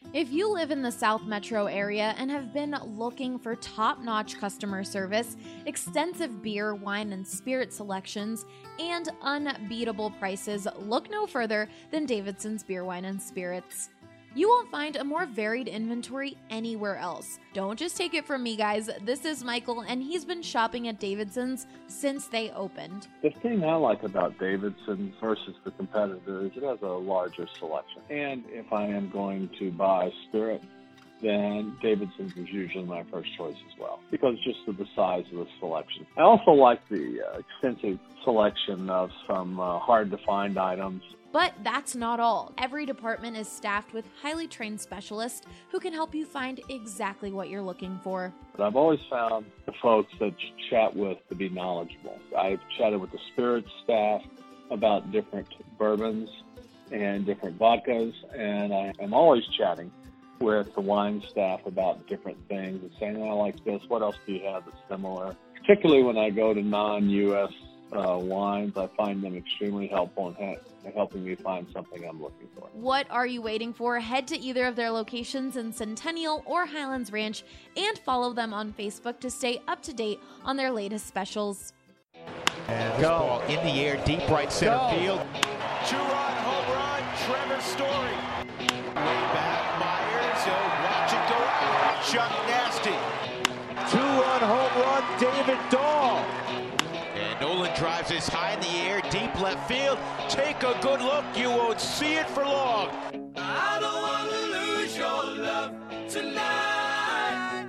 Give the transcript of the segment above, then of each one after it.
If you live in the South Metro area and have been looking for top-notch customer service, extensive beer, wine, and spirit selections, and unbeatable prices, look no further than Davidson's Beer, Wine, and Spirits. You won't find a more varied inventory anywhere else. Don't just take it from me, guys. This is Michael, and he's been shopping at Davidson's since they opened. The thing I like about Davidson's versus the competitor is it has a larger selection. And if I am going to buy spirit, then Davidson's is usually my first choice as well, because just of the size of the selection. I also like the extensive selection of some hard-to-find items. But that's not all. Every department is staffed with highly trained specialists who can help you find exactly what you're looking for. But I've always found the folks that you chat with to be knowledgeable. I've chatted with the spirits staff about different bourbons and different vodkas, and I am always chatting with the wine staff about different things and saying, I like this, what else do you have that's similar? Particularly when I go to non-U.S. wines, I find them extremely helpful in helping me find something I'm looking for. What are you waiting for? Head to either of their locations in Centennial or Highlands Ranch and follow them on Facebook to stay up to date on their latest specials. And this ball in the air, deep right center field. Two-run home run, Trevor Story. Way back, Myers, watch it go out. Chuck Nasty. Two-run home run, David Dahl. And Nolan drives this high in the air, deep left field. Take a good look, you won't see it for long. I don't want to lose your love tonight.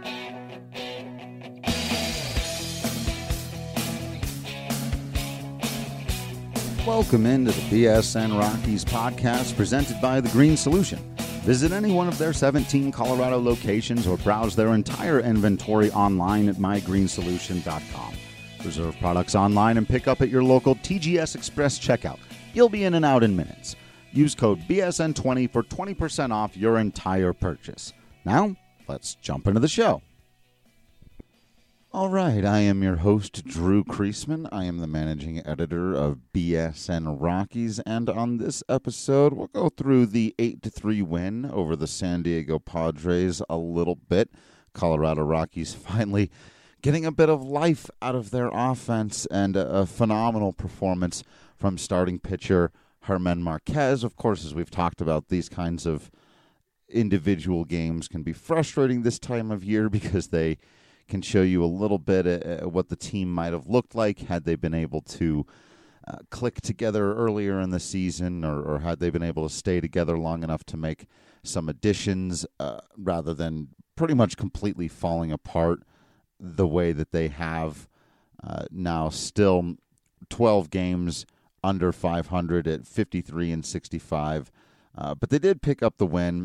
Welcome into the BSN Rockies podcast presented by The Green Solution. Visit any one of their 17 Colorado locations or browse their entire inventory online at mygreensolution.com. Reserve products online and pick up at your local TGS Express checkout. You'll be in and out in minutes. Use code BSN20 for 20% off your entire purchase. Now, let's jump into the show. All right, I am your host, Drew Kreisman. I am the managing editor of BSN Rockies, and on this episode, we'll go through the 8-3 win over the San Diego Padres a little bit. Colorado Rockies finally getting a bit of life out of their offense, and a phenomenal performance from starting pitcher German Marquez. Of course, as we've talked about, these kinds of individual games can be frustrating this time of year because they can show you a little bit of what the team might have looked like had they been able to click together earlier in the season, or had they been able to stay together long enough to make some additions rather than pretty much completely falling apart the way that they have now. Still 12 games under 500 at 53-65. But they did pick up the win.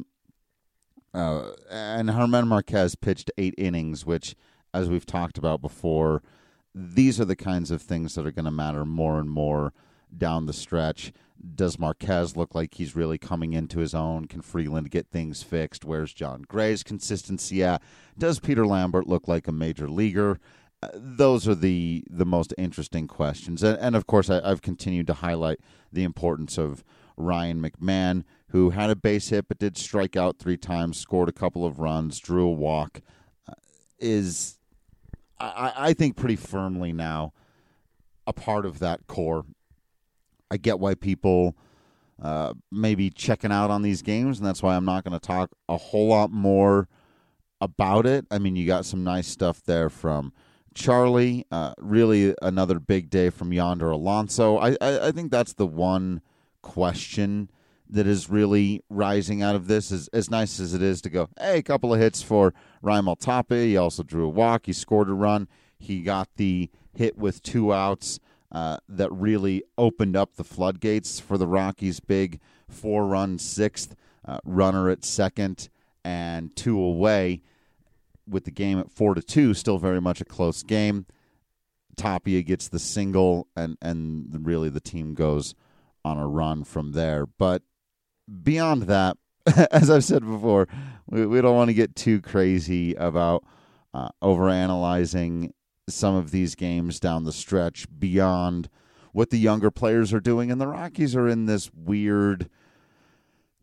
And German Marquez pitched 8 innings, which, as we've talked about before, these are the kinds of things that are going to matter more and more down the stretch. Does Marquez look like he's really coming into his own? Can Freeland get things fixed? Where's John Gray's consistency at? Does Peter Lambert look like a major leaguer? Those are the most interesting questions. And of course, I've continued to highlight the importance of Ryan McMahon, who had a base hit but did strike out 3 times, scored a couple of runs, drew a walk, is, I think, pretty firmly now a part of that core. I get why people may be checking out on these games, and that's why I'm not going to talk a whole lot more about it. I mean, you got some nice stuff there from Charlie. Really another big day from Yonder Alonso. I think that's the one question that is really rising out of this. Is as nice as it is to go, hey, a couple of hits for Ryan Maltape. He also drew a walk. He scored a run. He got the hit with 2 outs that really opened up the floodgates for the Rockies' big 4-run 6th, runner at second and 2 away, with the game at 4-2, still very much a close game. Tapia gets the single, and really the team goes on a run from there. But beyond that, as I've said before, we don't want to get too crazy about overanalyzing some of these games down the stretch beyond what the younger players are doing. And the Rockies are in this weird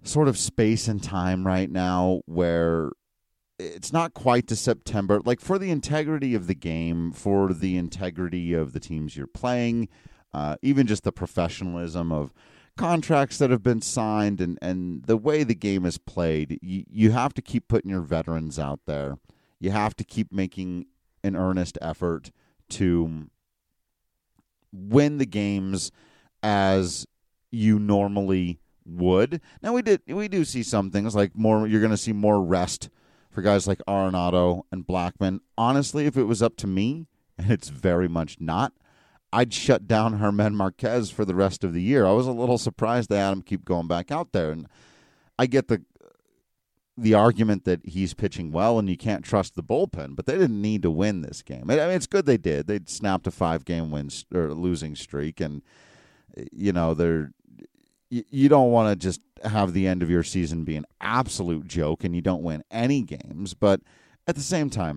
sort of space and time right now where it's not quite to September. Like, for the integrity of the game, for the integrity of the teams you're playing, even just the professionalism of contracts that have been signed and the way the game is played, you have to keep putting your veterans out there. You have to keep making an earnest effort to win the games as you normally would. Now, we do see some things like more. You're going to see more rest for guys like Arenado and Blackmon. Honestly, if it was up to me, and it's very much not, I'd shut down Germán Marquez for the rest of the year. I was a little surprised they had him keep going back out there. And I get the argument that he's pitching well and you can't trust the bullpen, but they didn't need to win this game. I mean, it's good they did. They snapped a 5-game losing streak, and you don't want to just have the end of your season be an absolute joke and you don't win any games. But at the same time,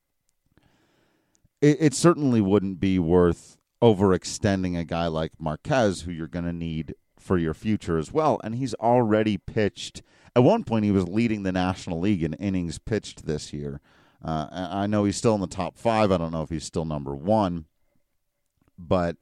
it certainly wouldn't be worth overextending a guy like Marquez, who you're going to need for your future as well. And he's already pitched. At one point, he was leading the National League in innings pitched this year. I know he's still in the top 5. I don't know if he's still number 1. But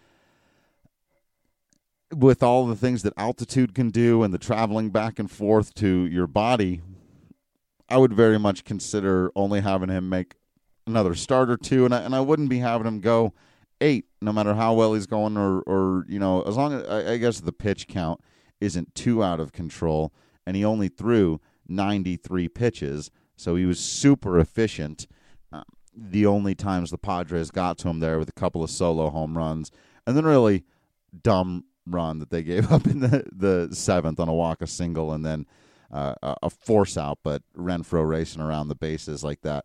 with all the things that altitude can do and the traveling back and forth to your body, I would very much consider only having him make another start or two, and I wouldn't be having him go 8, no matter how well he's going, or as long as I guess the pitch count isn't too out of control, and he only threw 93 pitches, so he was super efficient. The only times the Padres got to him there with a couple of solo home runs, and then really dumb run that they gave up in the 7th on a walk, a single, and then a force out, but Renfroe racing around the bases like that.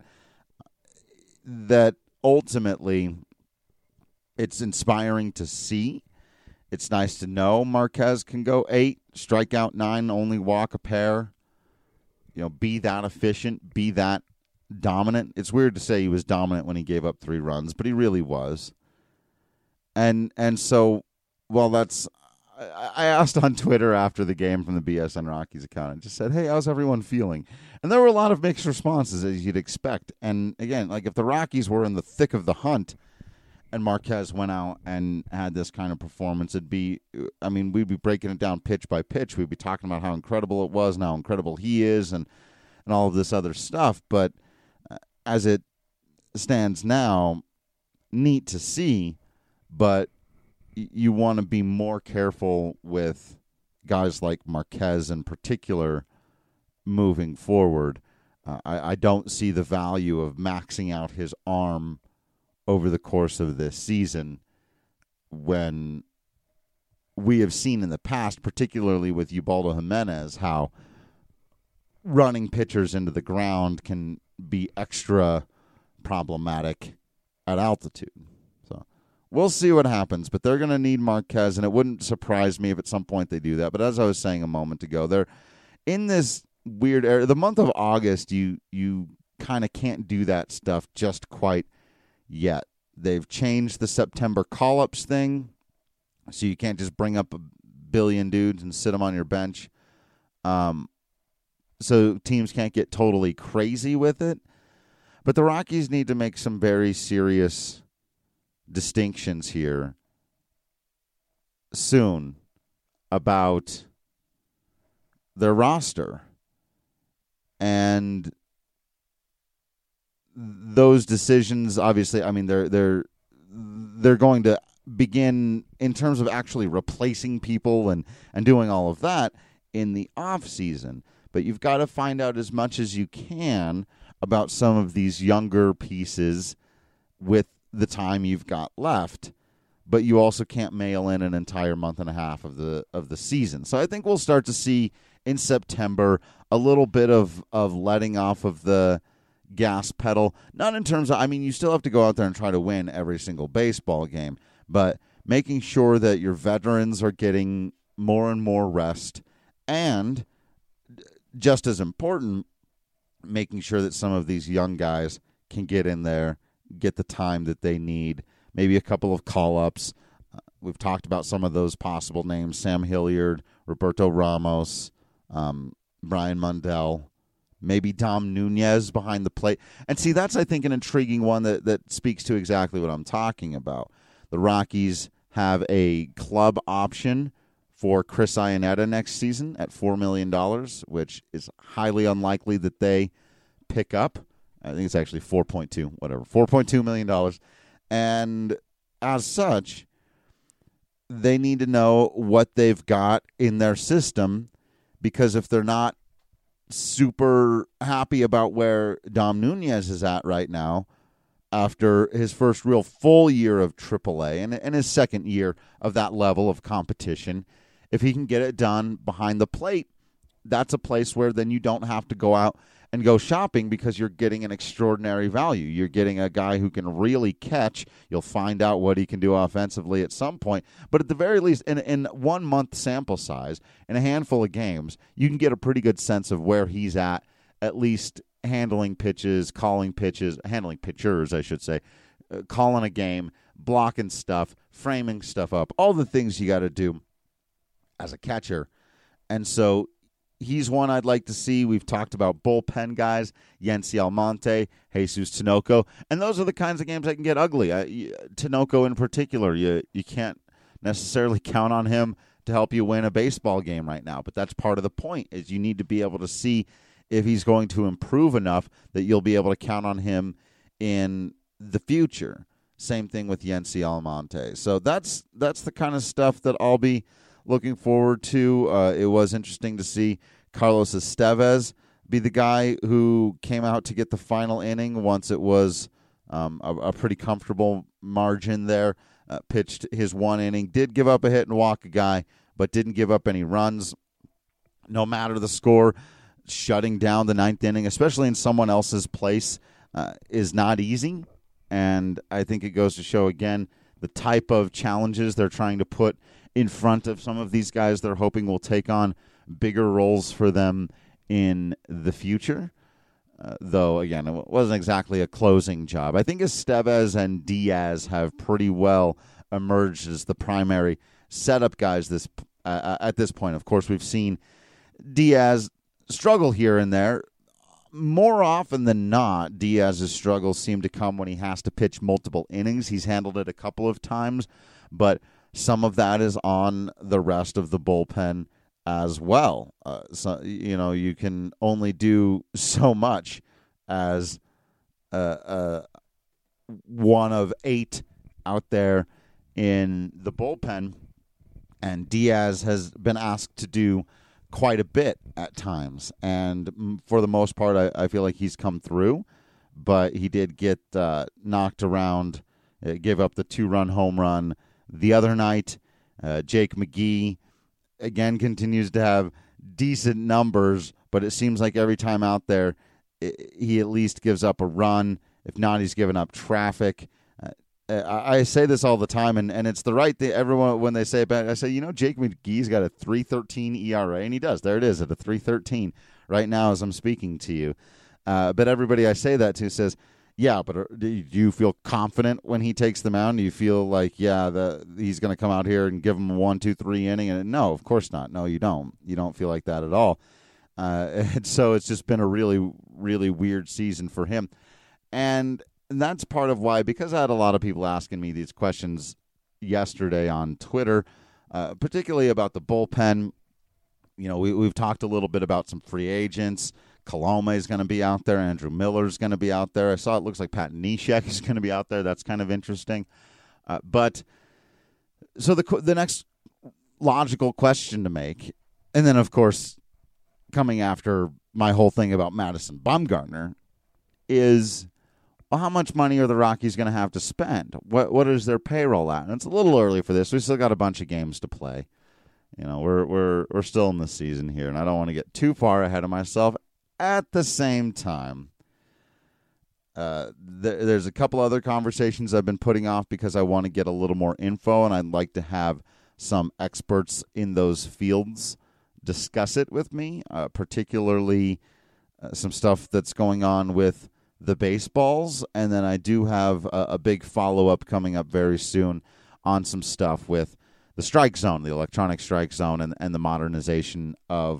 That ultimately, it's inspiring to see. It's nice to know Marquez can go 8, strike out 9, only walk a pair. Be that efficient, be that dominant. It's weird to say he was dominant when he gave up 3 runs, but he really was. And so, well, I asked on Twitter after the game from the BSN Rockies account and just said, hey, how's everyone feeling? And there were a lot of mixed responses, as you'd expect. And again, like if the Rockies were in the thick of the hunt and Marquez went out and had this kind of performance, we'd be breaking it down pitch by pitch. We'd be talking about how incredible it was and how incredible he is and all of this other stuff. But as it stands now, neat to see, but you want to be more careful with guys like Marquez in particular moving forward. I don't see the value of maxing out his arm over the course of this season when we have seen in the past, particularly with Ubaldo Jimenez, how running pitchers into the ground can be extra problematic at altitude. We'll see what happens, but they're going to need Marquez, and it wouldn't surprise me if at some point they do that. But as I was saying a moment ago, they're in this weird area. The month of August, you kind of can't do that stuff just quite yet. They've changed the September call-ups thing, so you can't just bring up a billion dudes and sit them on your bench. So teams can't get totally crazy with it. But the Rockies need to make some very serious distinctions here soon about their roster, and those decisions obviously, they're going to begin in terms of actually replacing people and doing all of that in the off season, but you've got to find out as much as you can about some of these younger pieces with the time you've got left, but you also can't mail in an entire month and a half of the season. So I think we'll start to see in September a little bit of letting off of the gas pedal. Not in terms of, you still have to go out there and try to win every single baseball game, but making sure that your veterans are getting more and more rest, and just as important, making sure that some of these young guys can get in there, get the time that they need, maybe a couple of call-ups. We've talked about some of those possible names: Sam Hilliard, Roberto Ramos, Brian Mundell, maybe Dom Nunez behind the plate. And see, that's, I think, an intriguing one that speaks to exactly what I'm talking about. The Rockies have a club option for Chris Iannetta next season at $4 million, which is highly unlikely that they pick up. I think it's actually $4.2 million. And as such, they need to know what they've got in their system, because if they're not super happy about where Dom Nunez is at right now, after his first real full year of AAA and his second year of that level of competition, if he can get it done behind the plate, that's a place where then you don't have to go out and go shopping, because you're getting an extraordinary value. You're getting a guy who can really catch. You'll find out what he can do offensively at some point. But at the very least, in 1 month sample size, in a handful of games, you can get a pretty good sense of where he's at least handling pitches, handling pitchers, I should say, calling a game, blocking stuff, framing stuff up, all the things you got to do as a catcher. And so he's one I'd like to see. We've talked about bullpen guys, Yency Almonte, Jesus Tinoco, and those are the kinds of games that can get ugly. Tinoco in particular, you can't necessarily count on him to help you win a baseball game right now, but that's part of the point, is you need to be able to see if he's going to improve enough that you'll be able to count on him in the future. Same thing with Yency Almonte. So that's the kind of stuff that I'll be looking forward to. It was interesting to see Carlos Estevez be the guy who came out to get the final inning once it was a pretty comfortable margin there. Pitched his one inning, did give up a hit and walk a guy, but didn't give up any runs. No matter the score, shutting down the ninth inning, especially in someone else's place, is not easy. And I think it goes to show, again, the type of challenges they're trying to put in front of some of these guys they're hoping will take on bigger roles for them in the future. Though, again, it wasn't exactly a closing job. I think Estevez and Diaz have pretty well emerged as the primary setup guys at this point. Of course, we've seen Diaz struggle here and there. More often than not, Diaz's struggles seem to come when he has to pitch multiple innings. He's handled it a couple of times, but some of that is on the rest of the bullpen as well. So, you can only do so much as one of 8 out there in the bullpen, and Diaz has been asked to do quite a bit at times, and for the most part, I feel like he's come through, but he did get knocked around, gave up the 2-run home run the other night. Jake McGee, again, continues to have decent numbers, but it seems like every time out there, he at least gives up a run. If not, he's given up traffic. I say this all the time, and it's the right thing. Everyone, when they say it, I say, Jake McGee's got a 3.13 ERA, and he does. There it is at a 3.13 right now as I'm speaking to you. But everybody I say that to says, yeah, but do you feel confident when he takes the mound? Do you feel like, he's going to come out here and give him a 1, 2, 3 inning? And no, of course not. No, you don't. You don't feel like that at all. And so it's just been a really, really weird season for him. And that's part of why, because I had a lot of people asking me these questions yesterday on Twitter, particularly about the bullpen. We've talked a little bit about some free agents. Colome is going to be out there. Andrew Miller is going to be out there. I saw it looks like Pat Neshek is going to be out there. That's kind of interesting. But so the next logical question to make, and then, of course, coming after my whole thing about Madison Bumgarner, is, well, how much money are the Rockies going to have to spend? What is their payroll at? And it's a little early for this. We still got a bunch of games to play. We're still in the season here, and I don't want to get too far ahead of myself. At the same time, there's a couple other conversations I've been putting off because I want to get a little more info, and I'd like to have some experts in those fields discuss it with me, particularly some stuff that's going on with the baseballs, and then I do have a big follow-up coming up very soon on some stuff with the strike zone, the electronic strike zone, and the modernization of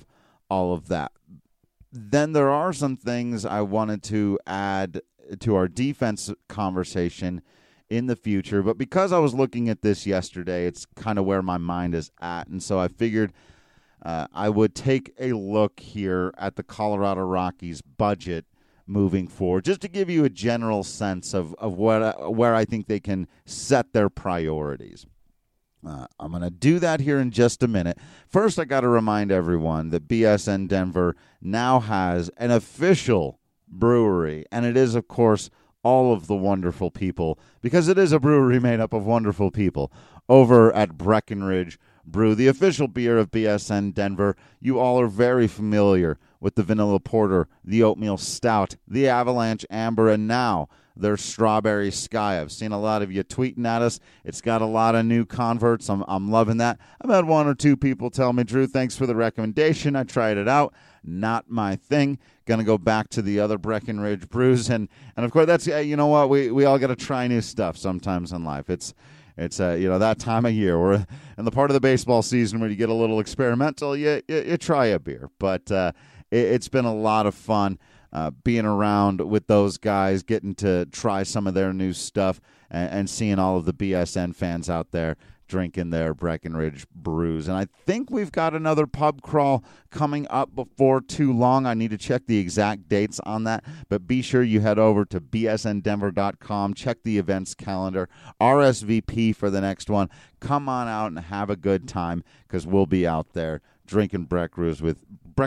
all of that. Then there are some things I wanted to add to our defense conversation in the future, but because I was looking at this yesterday, it's kind of where my mind is at, and so I figured I would take a look here at the Colorado Rockies budget moving forward, just to give you a general sense of where I think they can set their priorities. I'm going to do that here in just a minute. First, I got to remind everyone that BSN Denver now has an official brewery, and it is, of course, all of the wonderful people, because it is a brewery made up of wonderful people, over at Breckenridge Brew, the official beer of BSN Denver. You all are very familiar with the Vanilla Porter, the Oatmeal Stout, the Avalanche Amber, and now their Strawberry Sky. I've seen a lot of you tweeting at us. It's got a lot of new converts. I'm loving that. I've had one or two people tell me, Drew, thanks for the recommendation. I tried it out. Not my thing. Going to go back to the other Breckenridge brews. And of course, that's, you know what, we all got to try new stuff sometimes in life. It's that time of year. We're in the part of the baseball season where you get a little experimental. You try a beer. But it's been a lot of fun being around with those guys, getting to try some of their new stuff, and seeing all of the BSN fans out there drinking their Breckenridge brews. And I think we've got another pub crawl coming up before too long. I need to check the exact dates on that, but be sure you head over to bsndenver.com, check the events calendar, RSVP for the next one. Come on out and have a good time, because we'll be out there drinking Breck brews with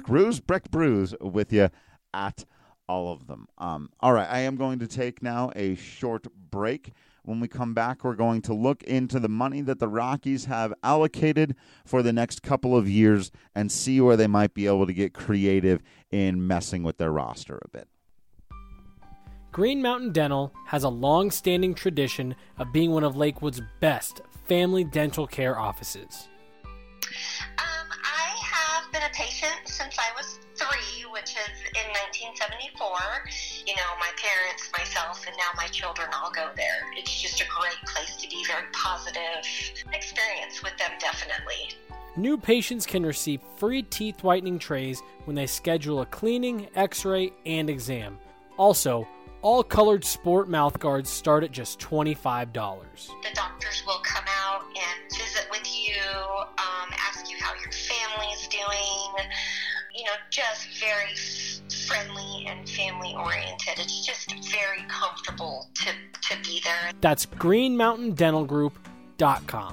you at all of them. All right, I am going to take now a short break. When we come back, we're going to look into the money that the Rockies have allocated for the next couple of years and see where they might be able to get creative in messing with their roster a bit. Green Mountain Dental has a long-standing tradition of being one of Lakewood's best family dental care offices. I have been a patient since I was 3, which is in 1974. You know, my parents, myself, and now my children all go there. It's just a great place to be, very positive experience with them, definitely. New patients can receive free teeth whitening trays when they schedule a cleaning, x-ray, and exam. Also, all colored sport mouth guards start at just $25. The doctors will come out and visit with you, ask you how your family's doing, you know, just very friendly and family-oriented. It's just very comfortable to be there. That's greenmountaindentalgroup.com.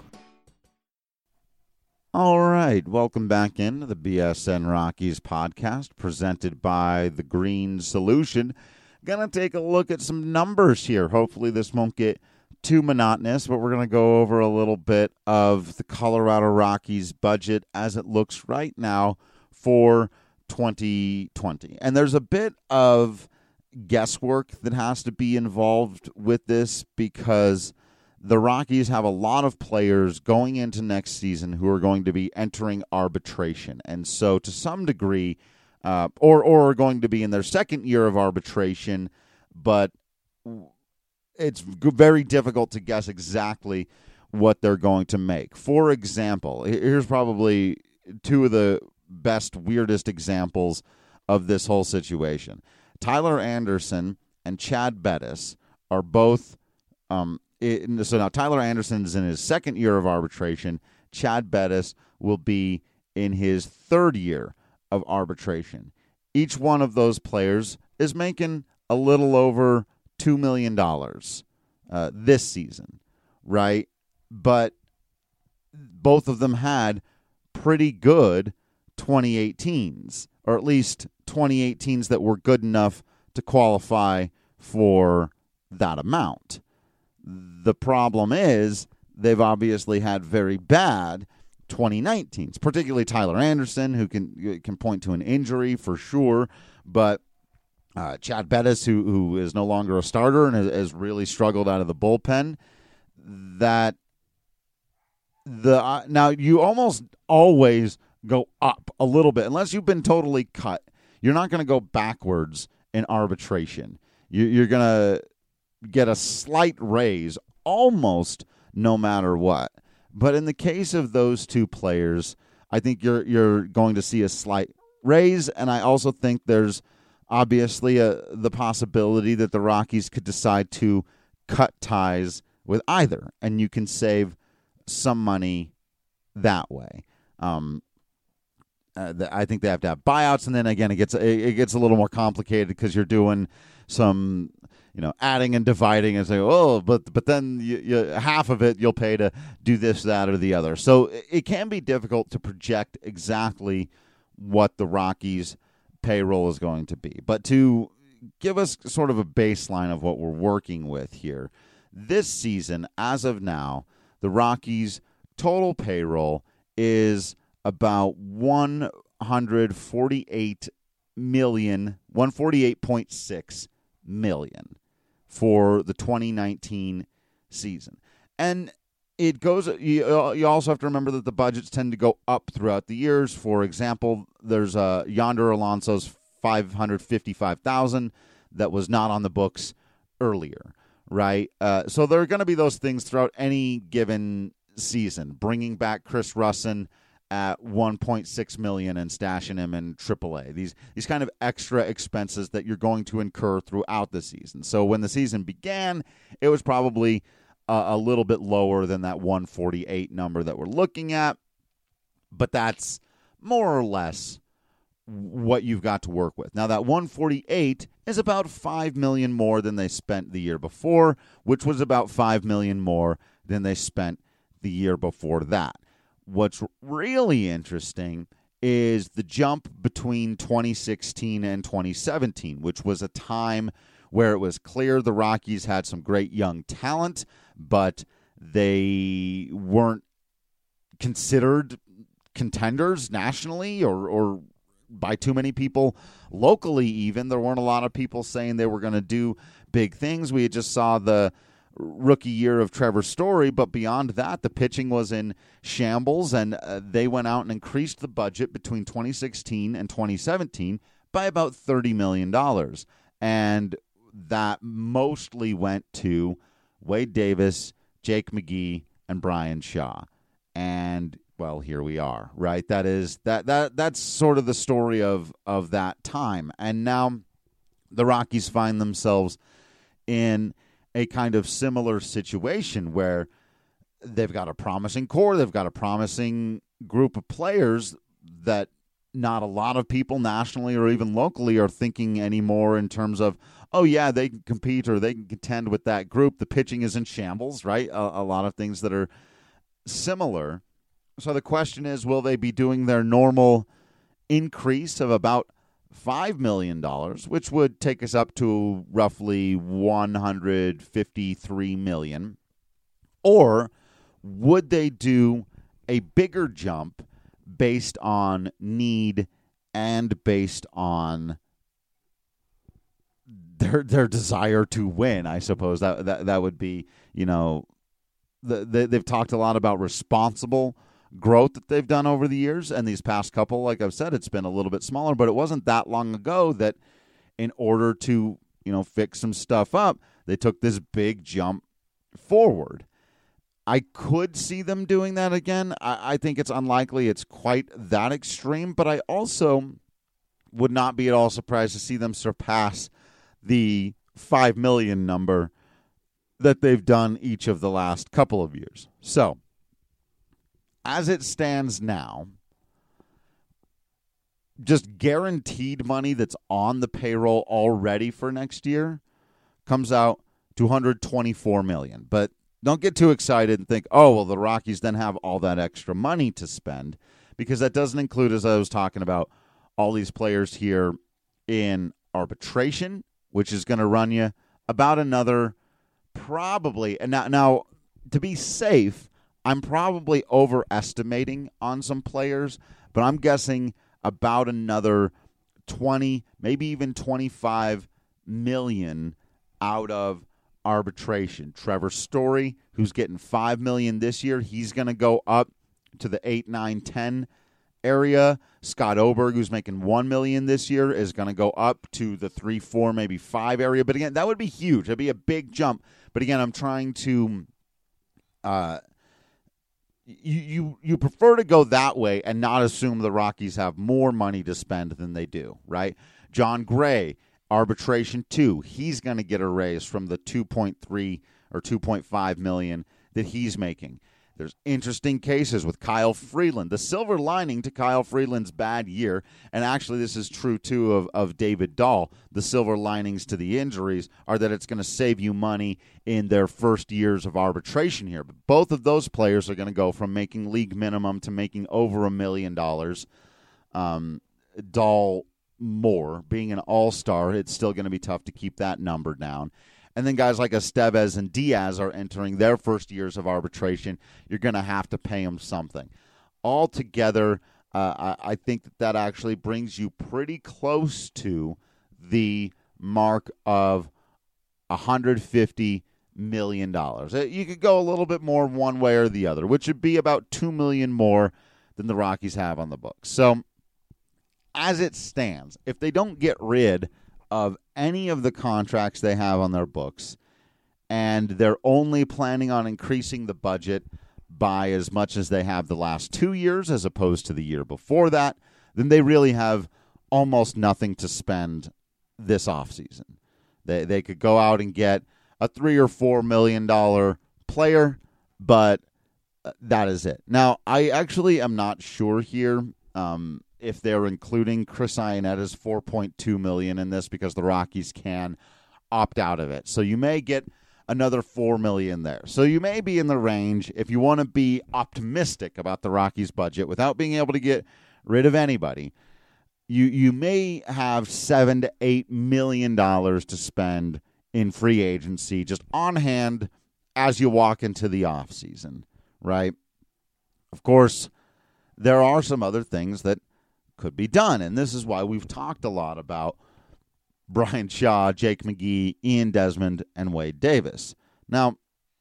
All right, welcome back into the BSN Rockies podcast presented by The Green Solution. Going to take a look at some numbers here. Hopefully this won't get too monotonous, but we're going to go over a little bit of the Colorado Rockies budget as it looks right now for 2020. And there's a bit of guesswork that has to be involved with this, because the Rockies have a lot of players going into next season who are going to be entering arbitration. And so to some degree, or are going to be in their second year of arbitration, but it's very difficult to guess exactly what they're going to make. For example, here's probably two of the best, weirdest examples of this whole situation. Tyler Anderson and Chad Bettis are both so now Tyler Anderson is in his second year of arbitration. Chad Bettis will be in his third year of arbitration. Each one of those players is making a little over $2 million this season, right? But both of them had pretty good 2018s, or at least 2018s that were good enough to qualify for that amount. The problem is they've obviously had very bad 2019s, particularly Tyler Anderson, who can point to an injury for sure, but Chad Bettis, who is no longer a starter and has really struggled out of the bullpen. Now you almost always go up a little bit unless you've been totally cut. You're not going to go backwards in arbitration. You're going to get a slight raise almost no matter what. But in the case of those two players, I think you're going to see a slight Rays, and I also think there's obviously the possibility that the Rockies could decide to cut ties with either, and you can save some money that way. I think they have to have buyouts, and then again, it gets a little more complicated because you're doing some, adding and dividing and saying, but then you half of it you'll pay to do this, that, or the other. So it can be difficult to project exactly what the Rockies' payroll is going to be. But to give us sort of a baseline of what we're working with here, this season, as of now, the Rockies' total payroll is about $148.6 million for the 2019 season. And it goes. You also have to remember that the budgets tend to go up throughout the years. For example, there's Yonder Alonso's $555,000 that was not on the books earlier, right? So there are going to be those things throughout any given season. Bringing back Chris Russin at $1.6 million and stashing him in AAA. These kind of extra expenses that you're going to incur throughout the season. So when the season began, it was probably a little bit lower than that 148 number that we're looking at, but that's more or less what you've got to work with. Now that 148 is about $5 million more than they spent the year before, which was about $5 million more than they spent the year before that. What's really interesting is the jump between 2016 and 2017, which was a time where it was clear the Rockies had some great young talent, but they weren't considered contenders nationally or by too many people locally even. There weren't a lot of people saying they were going to do big things. We just saw the rookie year of Trevor Story, but beyond that, the pitching was in shambles, and they went out and increased the budget between 2016 and 2017 by about $30 million. And that mostly went to Wade Davis, Jake McGee, and Brian Shaw. And, well, here we are, right? That's sort of the story of that time. And now the Rockies find themselves in a kind of similar situation where they've got a promising core, they've got a promising group of players that not a lot of people nationally or even locally are thinking anymore in terms of, oh yeah, they can compete or they can contend with that group. The pitching is in shambles, right? A lot of things that are similar. So the question is, will they be doing their normal increase of about $5 million, which would take us up to roughly $153 million? Or would they do a bigger jump based on need and based on their desire to win? I suppose that would be, they've talked a lot about responsible growth that they've done over the years, and these past couple, like I've said, it's been a little bit smaller, but it wasn't that long ago that in order to, fix some stuff up, they took this big jump forward. I could see them doing that again. I think it's unlikely it's quite that extreme, but I also would not be at all surprised to see them surpass the $5 million number that they've done each of the last couple of years. So, as it stands now, just guaranteed money that's on the payroll already for next year comes out to $124 million. But don't get too excited and think, oh, well, the Rockies then have all that extra money to spend, because that doesn't include, as I was talking about, all these players here in arbitration, which is going to run you about another probably. And now to be safe, I'm probably overestimating on some players, but I'm guessing about another 20, maybe even 25 million out of arbitration. Trevor Story, who's getting $5 million this year, he's going to go up to the 8, 9, 10 area. Scott Oberg, who's making $1 million this year, is going to go up to the 3, 4, maybe 5 area. But again, that would be huge. That'd be a big jump. But again, I'm trying to you prefer to go that way and not assume the Rockies have more money to spend than they do, right? John Gray, arbitration 2, he's going to get a raise from the 2.3 or 2.5 million that he's making. There's interesting cases with Kyle Freeland. The silver lining to Kyle Freeland's bad year, and actually this is true too of David Dahl, the silver linings to the injuries are that it's going to save you money in their first years of arbitration here. But both of those players are going to go from making league minimum to making over $1 million. Dahl more. Being an all-star, it's still going to be tough to keep that number down. And then guys like Estevez and Diaz are entering their first years of arbitration. You're going to have to pay them something. Altogether, I think that actually brings you pretty close to the mark of $150 million. You could go a little bit more one way or the other, which would be about $2 million more than the Rockies have on the books. So as it stands, if they don't get rid of any of the contracts they have on their books, and they're only planning on increasing the budget by as much as they have the last 2 years as opposed to the year before that, then they really have almost nothing to spend this offseason. They could go out and get a $3 or $4 million player, but that is it. Now, I actually am not sure here if they're including Chris Ionetta's $4.2 million in this because the Rockies can opt out of it. So you may get another $4 million there. So you may be in the range, if you want to be optimistic about the Rockies budget without being able to get rid of anybody, you may have $7 to $8 million to spend in free agency just on hand as you walk into the offseason, right? Of course, there are some other things that could be done, and this is why we've talked a lot about Bryan Shaw, Jake McGee, Ian Desmond, and Wade Davis. Now,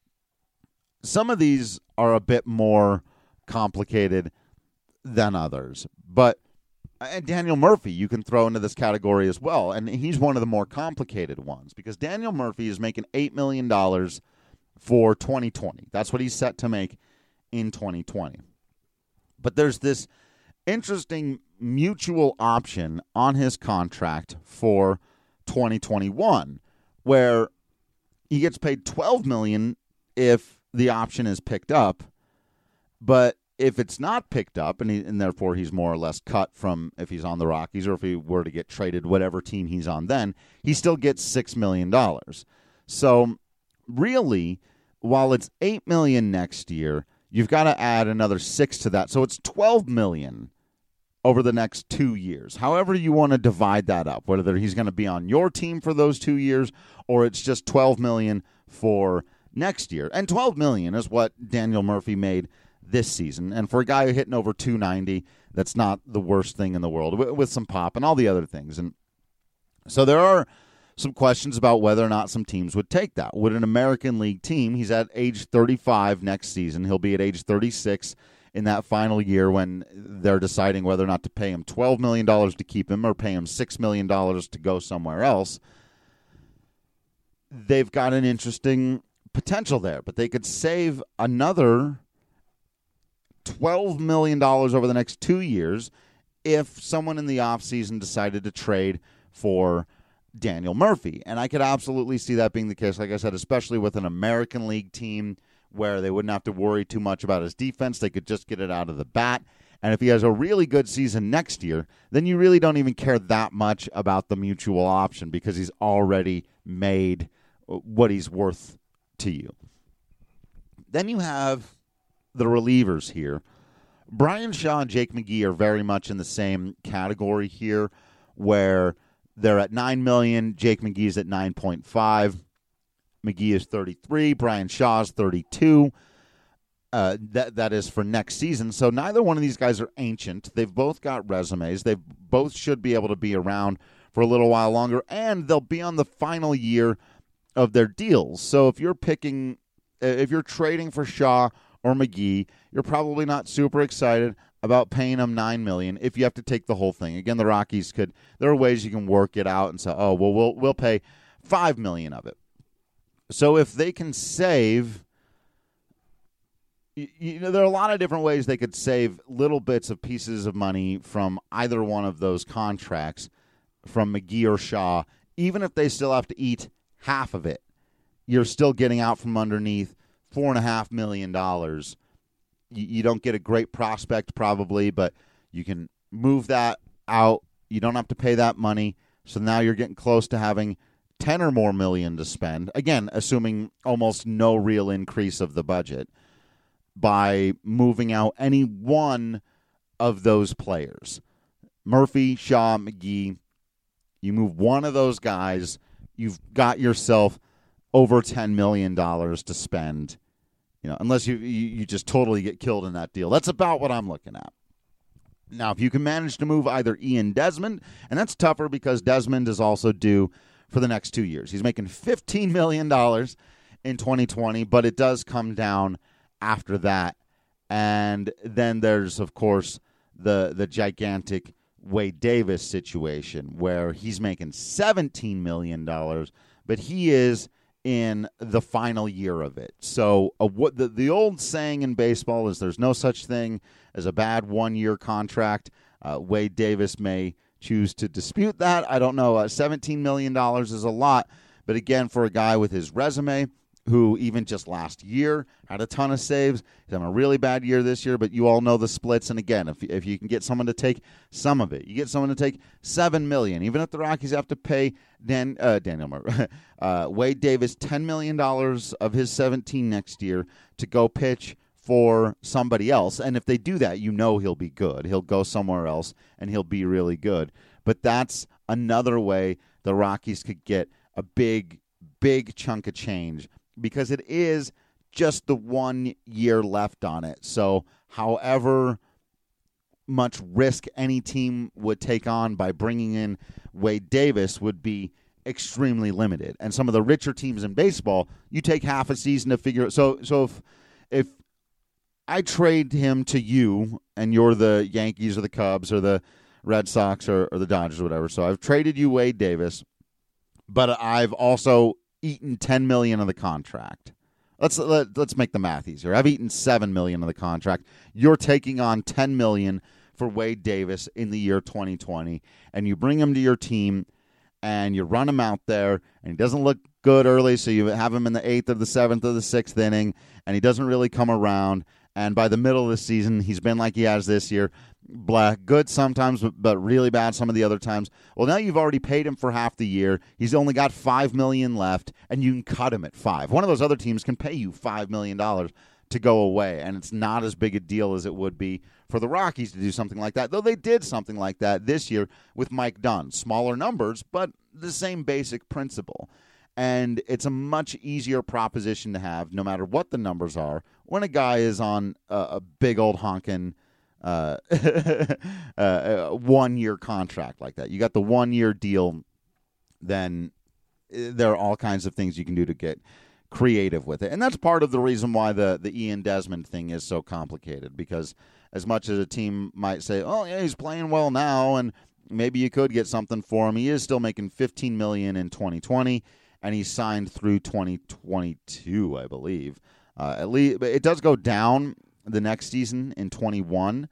some of these are a bit more complicated than others, but Daniel Murphy you can throw into this category as well, and he's one of the more complicated ones because Daniel Murphy is making $8 million for 2020. That's what he's set to make in 2020. But there's this interesting mutual option on his contract for 2021 where he gets paid $12 million if the option is picked up, but if it's not picked up and therefore he's more or less cut from if he's on the Rockies or if he were to get traded whatever team he's on then, he still gets $6 million. So really, while it's $8 million next year, you've got to add another 6 to that. So it's $12 million over the next 2 years. However you want to divide that up, whether he's going to be on your team for those 2 years or it's just $12 million for next year. And $12 million is what Daniel Murphy made this season. And for a guy hitting over 290, that's not the worst thing in the world with some pop and all the other things. And so there are some questions about whether or not some teams would take that. Would an American League team, he's at age 35 next season, he'll be at age 36 in that final year when they're deciding whether or not to pay him $12 million to keep him or pay him $6 million to go somewhere else. They've got an interesting potential there, but they could save another $12 million over the next 2 years if someone in the offseason decided to trade for Daniel Murphy. And I could absolutely see that being the case, like I said, especially with an American League team where they wouldn't have to worry too much about his defense. They could just get it out of the bat. And if he has a really good season next year, then you really don't even care that much about the mutual option because he's already made what he's worth to you. Then you have the relievers here. Bryan Shaw and Jake McGee are very much in the same category here where they're at $9 million. Jake McGee's at 9.5. McGee is 33. Bryan Shaw is 32. That is for next season. So neither one of these guys are ancient. They've both got resumes. They both should be able to be around for a little while longer, and they'll be on the final year of their deals. So if you're trading for Shaw or McGee, you're probably not super excited about paying them $9 million if you have to take the whole thing. Again, the Rockies there are ways you can work it out and say, oh, well, we'll pay $5 million of it. So if they can save there are a lot of different ways they could save little bits of pieces of money from either one of those contracts, from McGee or Shaw. Even if they still have to eat half of it, you're still getting out from underneath $4.5 million. You don't get a great prospect probably, but you can move that out. You don't have to pay that money. So now you're getting close to having 10 or more million to spend. Again, assuming almost no real increase of the budget by moving out any one of those players. Murphy, Shaw, McGee. You move one of those guys, you've got yourself over $10 million to spend. Unless you just totally get killed in that deal. That's about what I'm looking at. Now, if you can manage to move either Ian Desmond, and that's tougher because Desmond is also due for the next 2 years. He's making $15 million in 2020, but it does come down after that. And then there's, of course, the gigantic Wade Davis situation where he's making $17 million, but he is in the final year of it. So what the old saying in baseball is there's no such thing as a bad one-year contract. Wade Davis may choose to dispute that. I don't know. $17 million is a lot. But again, for a guy with his resume, who even just last year had a ton of saves, he's having a really bad year this year, but you all know the splits. And again, if you can get someone to take some of it, you get someone to take $7 million, even if the Rockies have to pay Wade Davis $10 million of his 17 next year to go pitch for somebody else. And if they do that, he'll be good. He'll go somewhere else and he'll be really good. But that's another way the Rockies could get a big chunk of change, because it is just the 1 year left on it. So however much risk any team would take on by bringing in Wade Davis would be extremely limited. And some of the richer teams in baseball, you take half a season to figure it. So if I trade him to you and you're the Yankees or the Cubs or the Red Sox or the Dodgers or whatever, so I've traded you Wade Davis, but I've also eaten $10 million of the contract. Let's make the math easier. I've eaten $7 million of the contract. You're taking on $10 million for Wade Davis in the year 2020, and you bring him to your team, and you run him out there, and he doesn't look good early, so you have him in the 8th or the 7th or the 6th inning, and he doesn't really come around, and by the middle of the season, he's been like he has this year, good sometimes, but really bad some of the other times. Well, now you've already paid him for half the year. He's only got $5 million left, and you can cut him at $5 million. One of those other teams can pay you $5 million to go away, and it's not as big a deal as it would be for the Rockies to do something like that, though they did something like that this year with Mike Dunn. Smaller numbers, but the same basic principle. And it's a much easier proposition to have, no matter what the numbers are, when a guy is on a big old honkin' 1 year contract like that. You got the 1 year deal, then there are all kinds of things you can do to get creative with it. And that's part of the reason why the Ian Desmond thing is so complicated, because as much as a team might say, oh yeah, he's playing well now and maybe you could get something for him, he is still making $15 million in 2020 and he's signed through 2022, I believe. At least it does go down the next season in 21,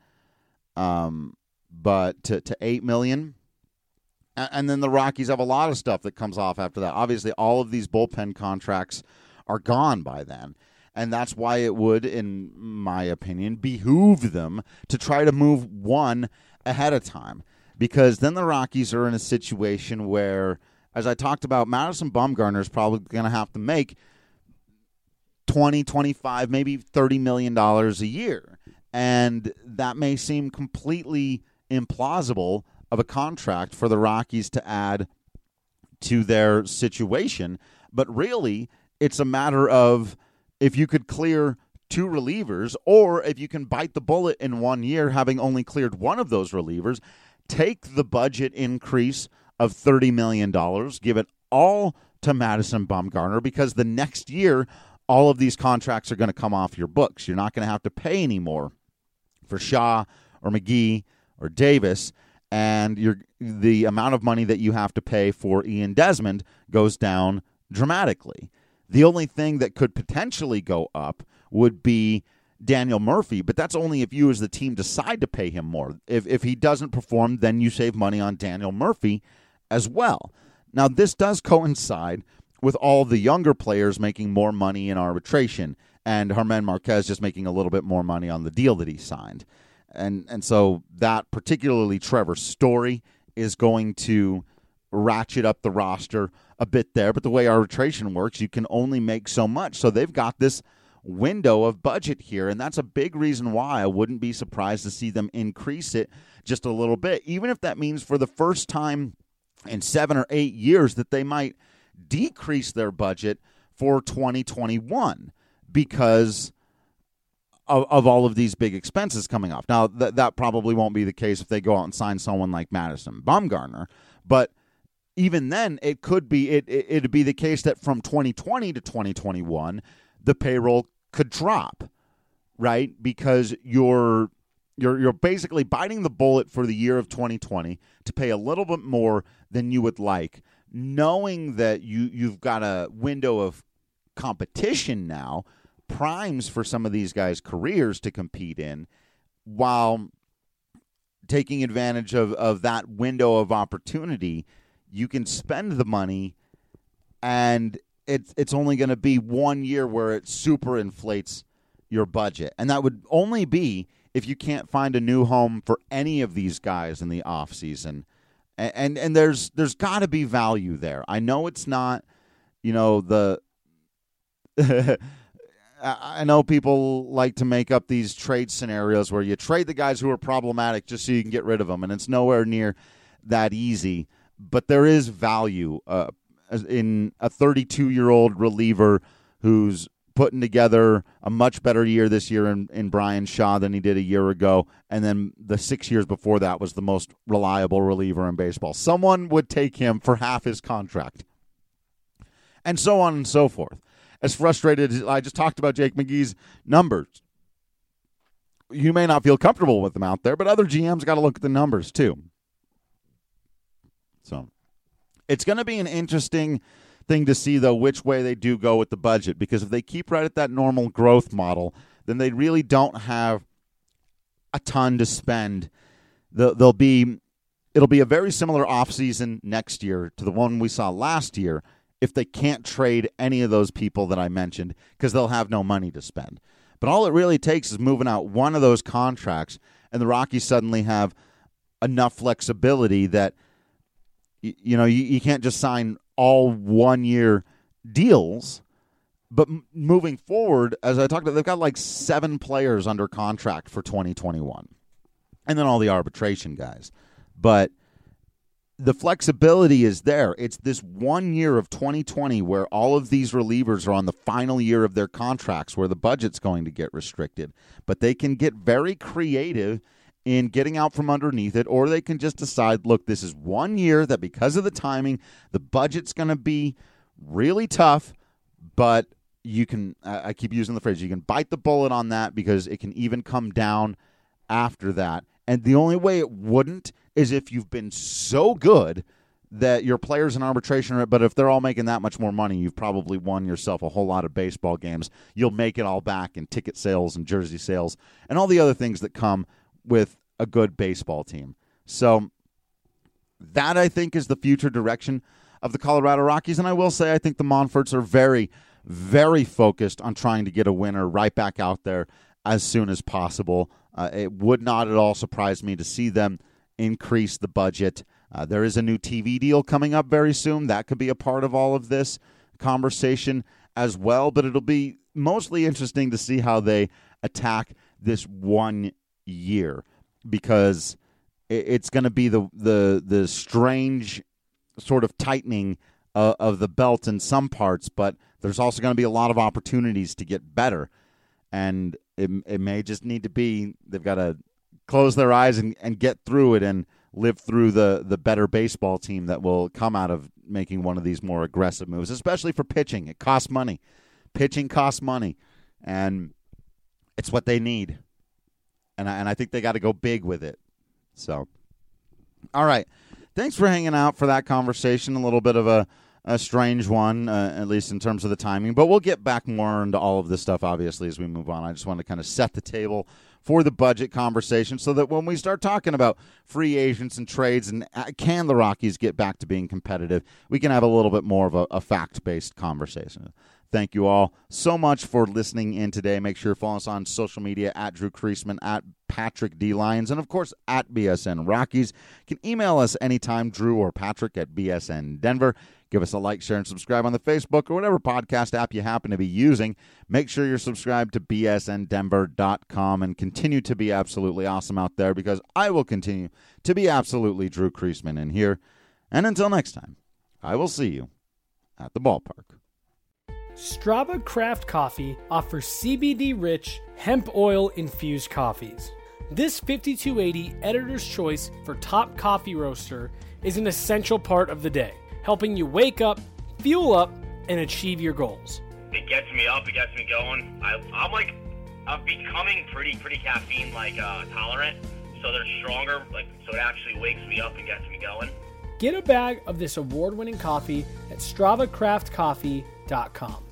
but to $8 million. And then the Rockies have a lot of stuff that comes off after that. Obviously, all of these bullpen contracts are gone by then. And that's why it would, in my opinion, behoove them to try to move one ahead of time. Because then the Rockies are in a situation where, as I talked about, Madison Bumgarner is probably going to have to make $20, $25, maybe $30 million a year. And that may seem completely implausible of a contract for the Rockies to add to their situation. But really, it's a matter of if you could clear two relievers, or if you can bite the bullet in 1 year, having only cleared one of those relievers, take the budget increase of $30 million, give it all to Madison Bumgarner, because the next year, all of these contracts are going to come off your books. You're not going to have to pay anymore for Shaw or McGee or Davis, and the amount of money that you have to pay for Ian Desmond goes down dramatically. The only thing that could potentially go up would be Daniel Murphy, but that's only if you as the team decide to pay him more. If he doesn't perform, then you save money on Daniel Murphy as well. Now, this does coincide with all the younger players making more money in arbitration and Germán Márquez just making a little bit more money on the deal that he signed. And so that, particularly Trevor Story, is going to ratchet up the roster a bit there. But the way arbitration works, you can only make so much. So they've got this window of budget here, and that's a big reason why I wouldn't be surprised to see them increase it just a little bit, even if that means for the first time in 7 or 8 years that they might decrease their budget for 2021 because of all of these big expenses coming off. Now, that probably won't be the case if they go out and sign someone like Madison Bumgarner, but even then, it could be it'd be the case that from 2020 to 2021, the payroll could drop, right? Because you're basically biting the bullet for the year of 2020 to pay a little bit more than you would like, knowing that you've got a window of competition now, primes for some of these guys' careers to compete in, while taking advantage of that window of opportunity. You can spend the money, and it's only going to be 1 year where it super inflates your budget. And that would only be if you can't find a new home for any of these guys in the offseason. And there's got to be value there. I know it's not, the I know people like to make up these trade scenarios where you trade the guys who are problematic just so you can get rid of them, and it's nowhere near that easy. But there is value in a 32-year-old reliever who's putting together a much better year this year in Brian Shaw than he did a year ago, and then the 6 years before that was the most reliable reliever in baseball. Someone would take him for half his contract, and so on and so forth. As frustrated as I just talked about Jake McGee's numbers, you may not feel comfortable with them out there, but other GMs got to look at the numbers too. So it's going to be an interesting thing to see, though, which way they do go with the budget, because if they keep right at that normal growth model, then they really don't have a ton to spend. It'll be a very similar offseason next year to the one we saw last year if they can't trade any of those people that I mentioned, because they'll have no money to spend. But all it really takes is moving out one of those contracts, and the Rockies suddenly have enough flexibility that you can't just sign all 1 year deals, but moving forward, as I talked about, they've got like 7 players under contract for 2021, and then all the arbitration guys. But the flexibility is there. It's this 1 year of 2020 where all of these relievers are on the final year of their contracts where the budget's going to get restricted, but they can get very creative in getting out from underneath it, or they can just decide, look, this is 1 year that because of the timing, the budget's going to be really tough, but you can, I keep using the phrase, you can bite the bullet on that because it can even come down after that. And the only way it wouldn't is if you've been so good that your players in arbitration, but if they're all making that much more money, you've probably won yourself a whole lot of baseball games. You'll make it all back in ticket sales and jersey sales and all the other things that come with a good baseball team. So that, I think, is the future direction of the Colorado Rockies. And I will say I think the Monforts are very, very focused on trying to get a winner right back out there as soon as possible. It would not at all surprise me to see them increase the budget. There is a new TV deal coming up very soon. That could be a part of all of this conversation as well. But it'll be mostly interesting to see how they attack this 1 year, because it's going to be the strange sort of tightening of the belt in some parts, but there's also going to be a lot of opportunities to get better. And it may just need to be, they've got to close their eyes and get through it and live through the better baseball team that will come out of making one of these more aggressive moves, especially for pitching. It costs money. Pitching costs money, and it's what they need. And I think they got to go big with it. So, all right. Thanks for hanging out for that conversation. A little bit of a strange one, at least in terms of the timing. But we'll get back more into all of this stuff, obviously, as we move on. I just want to kind of set the table for the budget conversation so that when we start talking about free agents and trades and can the Rockies get back to being competitive, we can have a little bit more of a fact-based conversation. Thank you all so much for listening in today. Make sure you follow us on social media at Drew Creasman, at Patrick D. Lyons, and, of course, at BSN Rockies. You can email us anytime, Drew or Patrick at BSN Denver. Give us a like, share, and subscribe on the Facebook or whatever podcast app you happen to be using. Make sure you're subscribed to bsndenver.com and continue to be absolutely awesome out there, because I will continue to be absolutely Drew Creasman in here. And until next time, I will see you at the ballpark. Strava Craft Coffee offers CBD-rich, hemp oil-infused coffees. This 5280 Editor's Choice for Top Coffee Roaster is an essential part of the day, helping you wake up, fuel up, and achieve your goals. It gets me up, it gets me going. I'm becoming pretty caffeine tolerant, so they're stronger, so it actually wakes me up and gets me going. Get a bag of this award-winning coffee at StravaCraftCoffee.com.